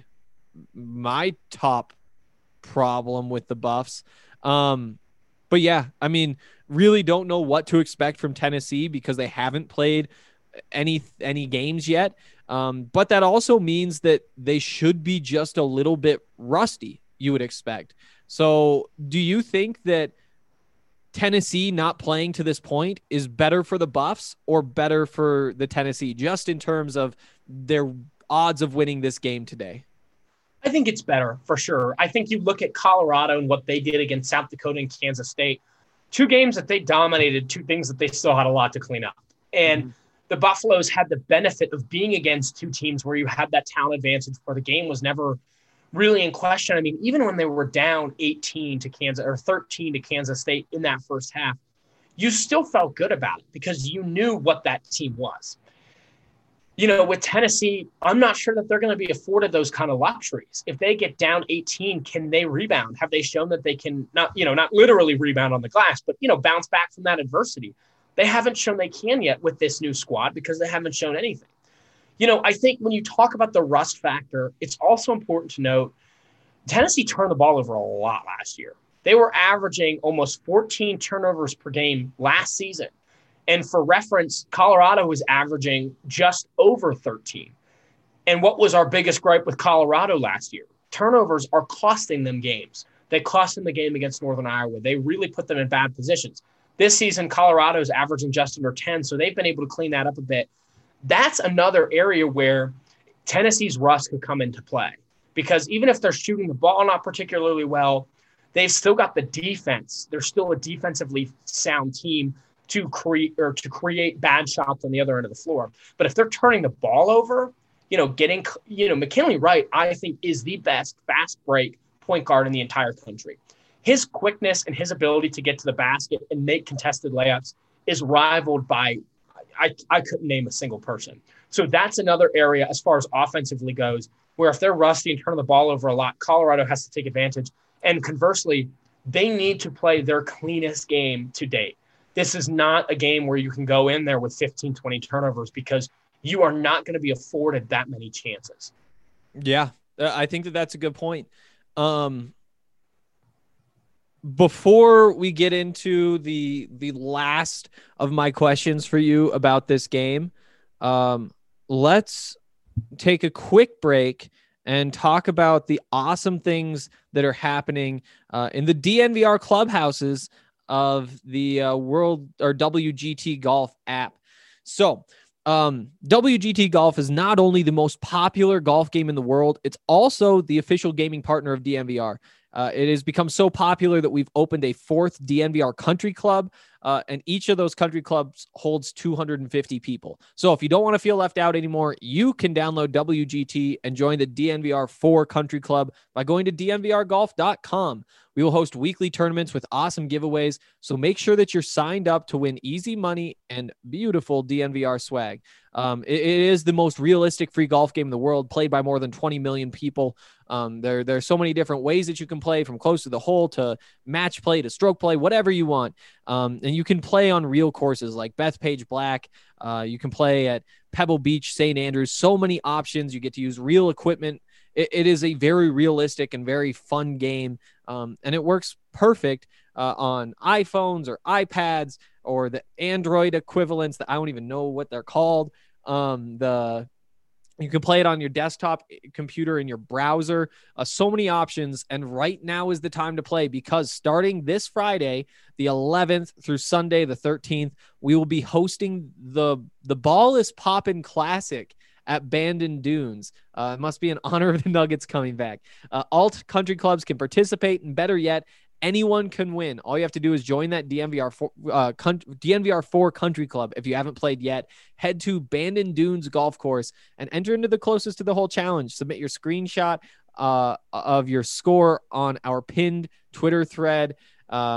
my top problem with the Buffs. Um, but yeah, I mean, really don't know what to expect from Tennessee because they haven't played any, any games yet. Um, but that also means that they should be just a little bit rusty, you would expect. So do you think that Tennessee not playing to this point is better for the Buffs or better for the Tennessee, just in terms of their odds of winning this game today? I think it's better for sure. I think you look at Colorado and what they did against South Dakota and Kansas State, two games that they dominated, two things that they still had a lot to clean up. And mm-hmm. the Buffaloes had the benefit of being against two teams where you had that talent advantage where the game was never really in question. I mean, even when they were down eighteen to Kansas or thirteen to Kansas State in that first half, you still felt good about it because you knew what that team was. You know, with Tennessee, I'm not sure that they're going to be afforded those kind of luxuries. If they get down eighteen, can they rebound? Have they shown that they can not, you know, not literally rebound on the glass, but, you know, bounce back from that adversity? They haven't shown they can yet with this new squad because they haven't shown anything. You know, I think when you talk about the rust factor, it's also important to note Tennessee turned the ball over a lot last year. They were averaging almost fourteen turnovers per game last season. And for reference, Colorado was averaging just over thirteen. And what was our biggest gripe with Colorado last year? Turnovers are costing them games. They cost them the game against Northern Iowa. They really put them in bad positions. This season, Colorado's averaging just under ten, so they've been able to clean that up a bit. That's another area where Tennessee's rust could come into play. Because even if they're shooting the ball not particularly well, they've still got the defense. They're still a defensively sound team to create or to create bad shots on the other end of the floor. But if they're turning the ball over, you know, getting, you know, McKinley Wright, I think, is the best fast break point guard in the entire country. His quickness and his ability to get to the basket and make contested layups is rivaled by, I, I couldn't name a single person. So that's another area as far as offensively goes, where if they're rusty and turn the ball over a lot, Colorado has to take advantage. And conversely, they need to play their cleanest game to date. This is not a game where you can go in there with fifteen, twenty turnovers because you are not going to be afforded that many chances. Yeah, I think that that's a good point. Um, before we get into the the last of my questions for you about this game, um, let's take a quick break and talk about the awesome things that are happening uh, in the D N V R clubhouses of the uh, World or W G T Golf app. So um, W G T Golf is not only the most popular golf game in the world, it's also the official gaming partner of D N V R. Uh, it has become so popular that we've opened a fourth D N V R country club, uh, and each of those country clubs holds two hundred fifty people. So if you don't want to feel left out anymore, you can download W G T and join the D N V R four country club by going to D N V R golf dot com. We will host weekly tournaments with awesome giveaways, so make sure that you're signed up to win easy money and beautiful D N V R swag. Um, it, it is the most realistic free golf game in the world, played by more than twenty million people. Um, there, there are so many different ways that you can play, from close to the hole to match play to stroke play, whatever you want. Um, and you can play on real courses like Bethpage Black. Uh, you can play at Pebble Beach, Saint Andrews. So many options. You get to use real equipment. It, it is a very realistic and very fun game. Um, and it works perfect uh, on iPhones or iPads or the Android equivalents that I don't even know what they're called. Um, the You can play it on your desktop computer in your browser. Uh, so many options. And right now is the time to play, because starting this Friday, the eleventh, through Sunday, the thirteenth, we will be hosting the, the Ball is Poppin' Classic at Bandon Dunes. Uh, it must be in honor of the Nuggets coming back. Uh, all country clubs can participate, and better yet, anyone can win. All you have to do is join that D N V R four, uh, D N V R four country club. If you haven't played yet, head to Bandon Dunes Golf Course and enter into the closest to the hole challenge. Submit your screenshot uh, of your score on our pinned Twitter thread. Um,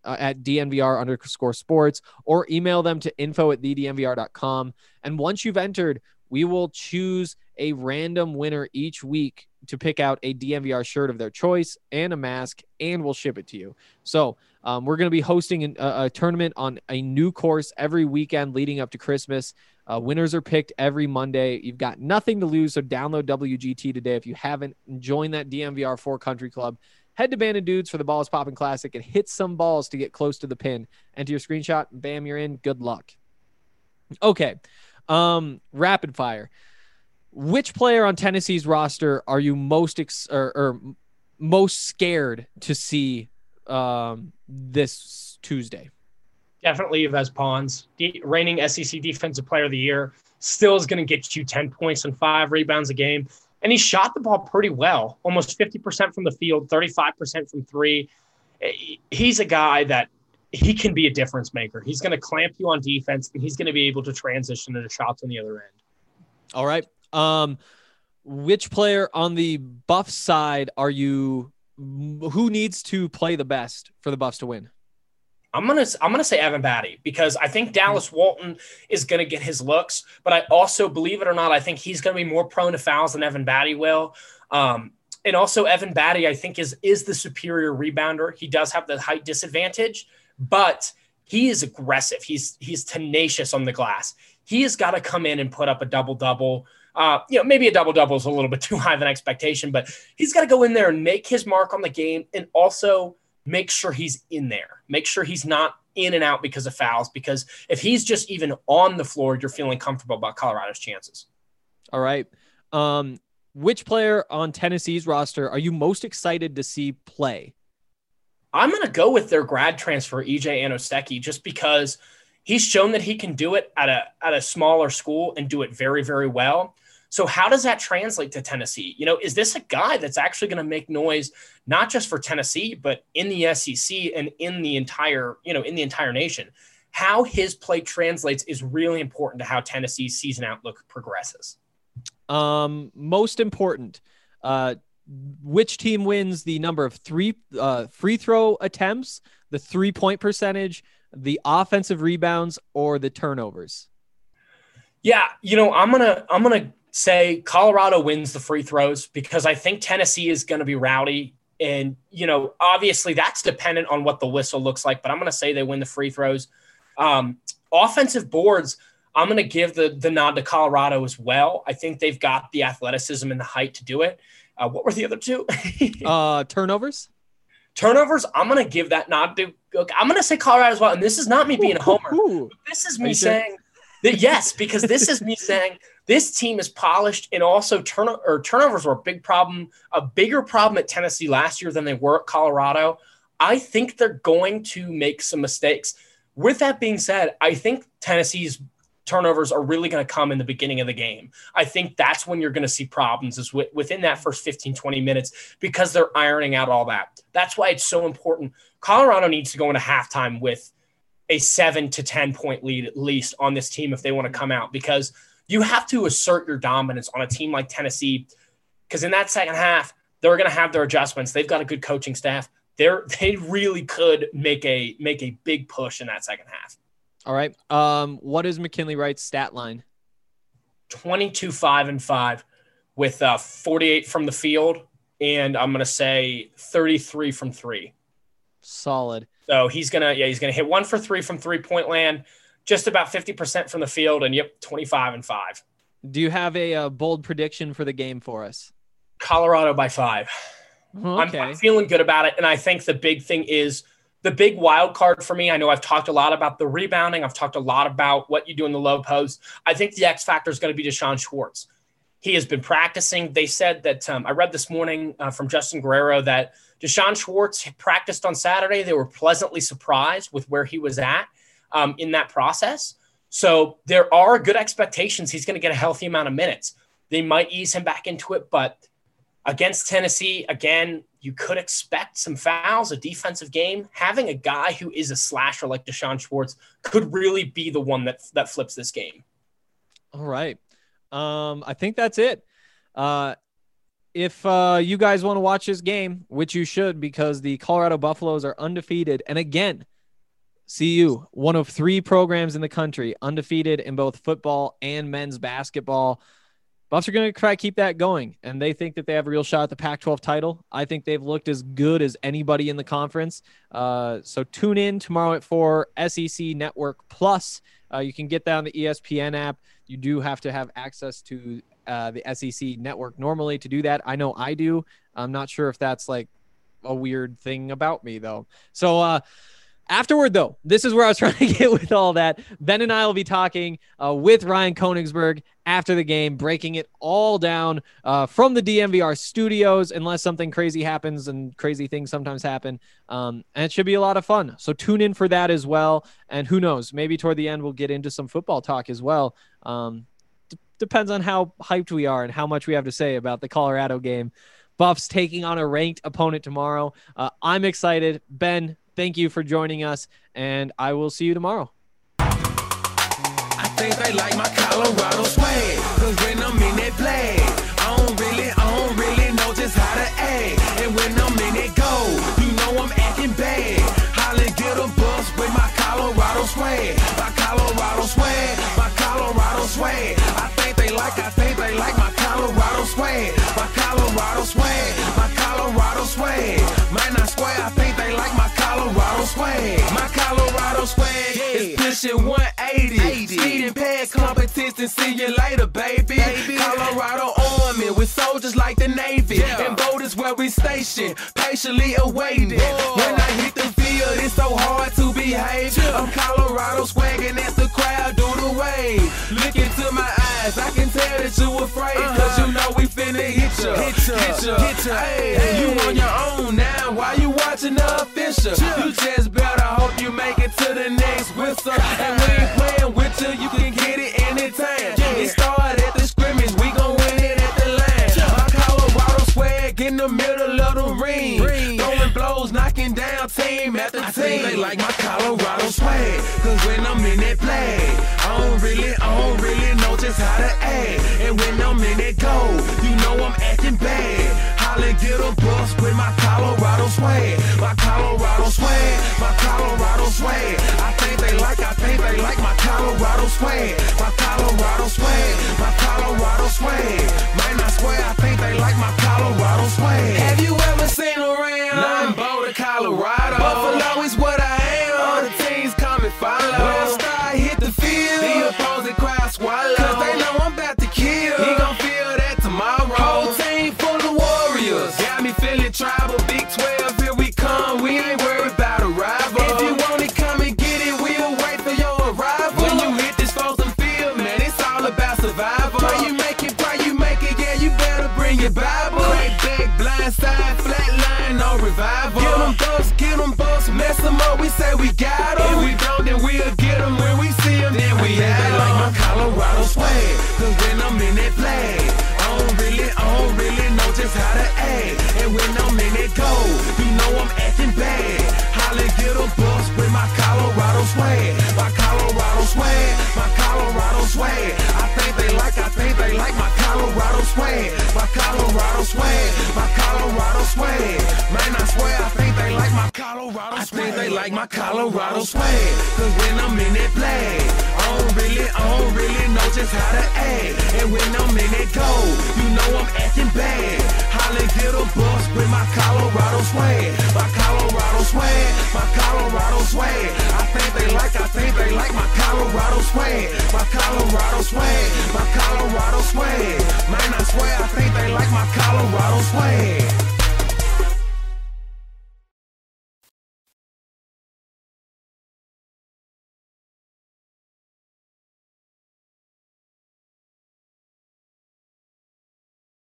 uh, at D N V R underscore sports, or email them to info at the D N V R dot com. And once you've entered, we will choose a random winner each week to pick out a D N V R shirt of their choice and a mask, and we'll ship it to you. So um, we're going to be hosting an, a, a tournament on a new course every weekend leading up to Christmas. Uh, winners are picked every Monday. You've got nothing to lose, so download W G T today. If you haven't, join that D N V R four Country Club. Head to Bandon Dudes for the Balls Poppin' Classic and hit some balls to get close to the pin. Enter your screenshot, and bam, you're in. Good luck. Okay, um, rapid fire. Which player on Tennessee's roster are you most ex- or, or most scared to see um, this Tuesday? Definitely Yves Pons, the reigning S E C Defensive Player of the Year, still is going to get you ten points and five rebounds a game. And he shot the ball pretty well, almost fifty percent from the field, thirty-five percent from three. He's a guy that he can be a difference maker. He's going to clamp you on defense, and he's going to be able to transition into shots on the other end. All right. Um, which player on the Buffs side are you, who needs to play the best for the Buffs to win? I'm gonna I'm gonna say Evan Batty, because I think Dallas Walton is gonna get his looks, but I also, believe it or not, I think he's gonna be more prone to fouls than Evan Batty will. Um, and also Evan Batty, I think, is is the superior rebounder. He does have the height disadvantage, but he is aggressive. He's he's tenacious on the glass. He has got to come in and put up a double double. Uh, you know, maybe a double double is a little bit too high of an expectation, but he's got to go in there and make his mark on the game, and also make sure he's in there. Make sure he's not in and out because of fouls, because if he's just even on the floor, you're feeling comfortable about Colorado's chances. All right. Um, which player on Tennessee's roster are you most excited to see play? I'm going to go with their grad transfer, E J Anoseki, just because he's shown that he can do it at a, at a smaller school and do it very, very well. So how does that translate to Tennessee? You know, is this a guy that's actually going to make noise, not just for Tennessee, but in the S E C and in the entire, you know, in the entire nation? How his play translates is really important to how Tennessee's season outlook progresses. Um, most important, uh, which team wins the number of three uh, free throw attempts, the three point percentage, the offensive rebounds, or the turnovers? Yeah, you know, I'm gonna I'm gonna say Colorado wins the free throws, because I think Tennessee is going to be rowdy. And, you know, obviously that's dependent on what the whistle looks like, but I'm going to say they win the free throws. Um, offensive boards, I'm going to give the, the nod to Colorado as well. I think they've got the athleticism and the height to do it. Uh, what were the other two? uh, turnovers? Turnovers, I'm going to give that nod to – I'm going to say Colorado as well. And this is not me being a homer. Ooh. This is me saying – that yes, because this is me saying this team is polished, and also turn or turnovers were a big problem, a bigger problem at Tennessee last year than they were at Colorado. I think they're going to make some mistakes. With that being said, I think Tennessee's turnovers are really going to come in the beginning of the game. I think that's when you're going to see problems, is within that first fifteen, twenty minutes, because they're ironing out all that. That's why it's so important. Colorado needs to go into halftime with a seven to ten point lead at least on this team if they want to come out, because you have to assert your dominance on a team like Tennessee, because in that second half, they're going to have their adjustments. They've got a good coaching staff. They're, they really could make a, make a big push in that second half. All right. Um, what is McKinley Wright's stat line? twenty-two, five and five with uh, forty-eight from the field. And I'm going to say thirty-three from three. Solid. So he's going to, yeah, he's going to hit one for three from three point land, just about fifty percent from the field. And yep, twenty-five and five. Do you have a, a bold prediction for the game for us? Colorado by five. Okay. I'm, I'm feeling good about it. And I think the big thing is the big wild card for me. I know I've talked a lot about the rebounding. I've talked a lot about what you do in the low post. I think the X factor is going to be Deshaun Schwartz. He has been practicing. They said that um, I read this morning uh, from Justin Guerrero that Deshaun Schwartz practiced on Saturday. They were pleasantly surprised with where he was at um, in that process. So there are good expectations. He's going to get a healthy amount of minutes. They might ease him back into it, but against Tennessee, again, you could expect some fouls, a defensive game. Having a guy who is a slasher like Deshaun Schwartz could really be the one that, that flips this game. All right. Um, I think that's it. Uh, if uh, you guys want to watch this game, which you should, because the Colorado Buffaloes are undefeated. And again, C U, one of three programs in the country, undefeated in both football and men's basketball. Buffs are going to try to keep that going, and they think that they have a real shot at the Pac twelve title. I think they've looked as good as anybody in the conference. Uh, so tune in tomorrow at four, S E C Network Plus. Uh, you can get that on the E S P N app. You do have to have access to uh, the S E C Network normally to do that. I know I do. I'm not sure if that's like a weird thing about me, though. So, uh, Afterward, though, this is where I was trying to get with all that. Ben and I will be talking uh, with Ryan Koenigsberg after the game, breaking it all down uh, from the D M V R studios, unless something crazy happens, and crazy things sometimes happen. Um, and it should be a lot of fun. So tune in for that as well. And who knows, maybe toward the end we'll get into some football talk as well. Um, d- depends on how hyped we are and how much we have to say about the Colorado game. Buffs taking on a ranked opponent tomorrow. Uh, I'm excited. Ben, thank you for joining us, and I will see you tomorrow. I think they like my Colorado swag, cause when I'm in that play, I don't really, I don't really know just how to act. And when I'm in that go, you know I'm acting bad. Holly get a bus with my Colorado swag, my Colorado swag, my Colorado swag. I think they like, I think they like my Colorado swag, my Colorado swag, my Colorado swag. Man, I swear I think they like my Colorado swag. My Colorado swag is pushing one eighty. Speeding past competition, see you later, baby. baby. Colorado Army with soldiers like the Navy. Yeah. And boat is where we station, patiently awaiting. Whoa. When I hit the field, it's so hard to behave. Yeah. I'm Colorado swagging as the crowd do the wave. Look into my eyes, I can tell that you afraid. Uh-huh. Cause you know we finna hit ya, hit ya, hit ya, hit ya. Hey, hey. You on your own now, why you watching the official? You just better hope you make it to the next whistle. And we ain't playing with you, you can get it anytime. It started at the scrimmage, we gon' win it at the line. My Colorado swag in the middle of the ring, throwing blows, knocking down team after team. I think they like my Colorado swag, cause when I'm in that play, I don't really, I don't really know just how to act. And when I'm in that go, you know I'm acting bad. Holly get a bus with my Colorado swag, my Colorado swag, my Colorado swag. I think they like, I think they like my Colorado swag, my Colorado swag, my Colorado swag. Man, I swear I think they like my Colorado swag. Have you ever seen around? Nah, I'm Boulder, Colorado. Buffalo is what I am. All the teams come and follow. When I start hit the field, the opposing crowd swallow. Cause they know I'm about to kill. He gon' feel that tomorrow. Whole team full of warriors. Got me feeling tribal. Big twelve, here we come. We ain't worried about a rival. If you want it, come and get it. We'll wait for your arrival. When you hit this frozen field, man, it's all about survival. Pray you make it, pray you make it. Yeah, you better bring your Bible. Crack back, blind side, flat line, no revival. Get them bucks, get them bucks, mess them up. We say we got them. If we don't, then we'll get them. When we see them, then we have them. Like my Colorado swag, cause when I'm in that play, I don't really, I don't really know just how to act. And when I'm in that go, you know I'm acting bad. Holly get a bus with my Colorado swag, my Colorado swag, my Colorado swag. I think they like, I think they like my Colorado swag, my Colorado swag, my Colorado swag. Man, I swear I think they like my Colorado swag. I think they like my Colorado swag, cause when I'm in that play, I don't really, I don't really know just how to act. And when I'm in that go, you know I'm acting bad. Holly get a bus with my Colorado swag, my Colorado swag, my Colorado swag. I think they like, I think they like my Colorado swag, my Colorado swag, my Colorado swag. Man, I swear I think they like my Colorado swag.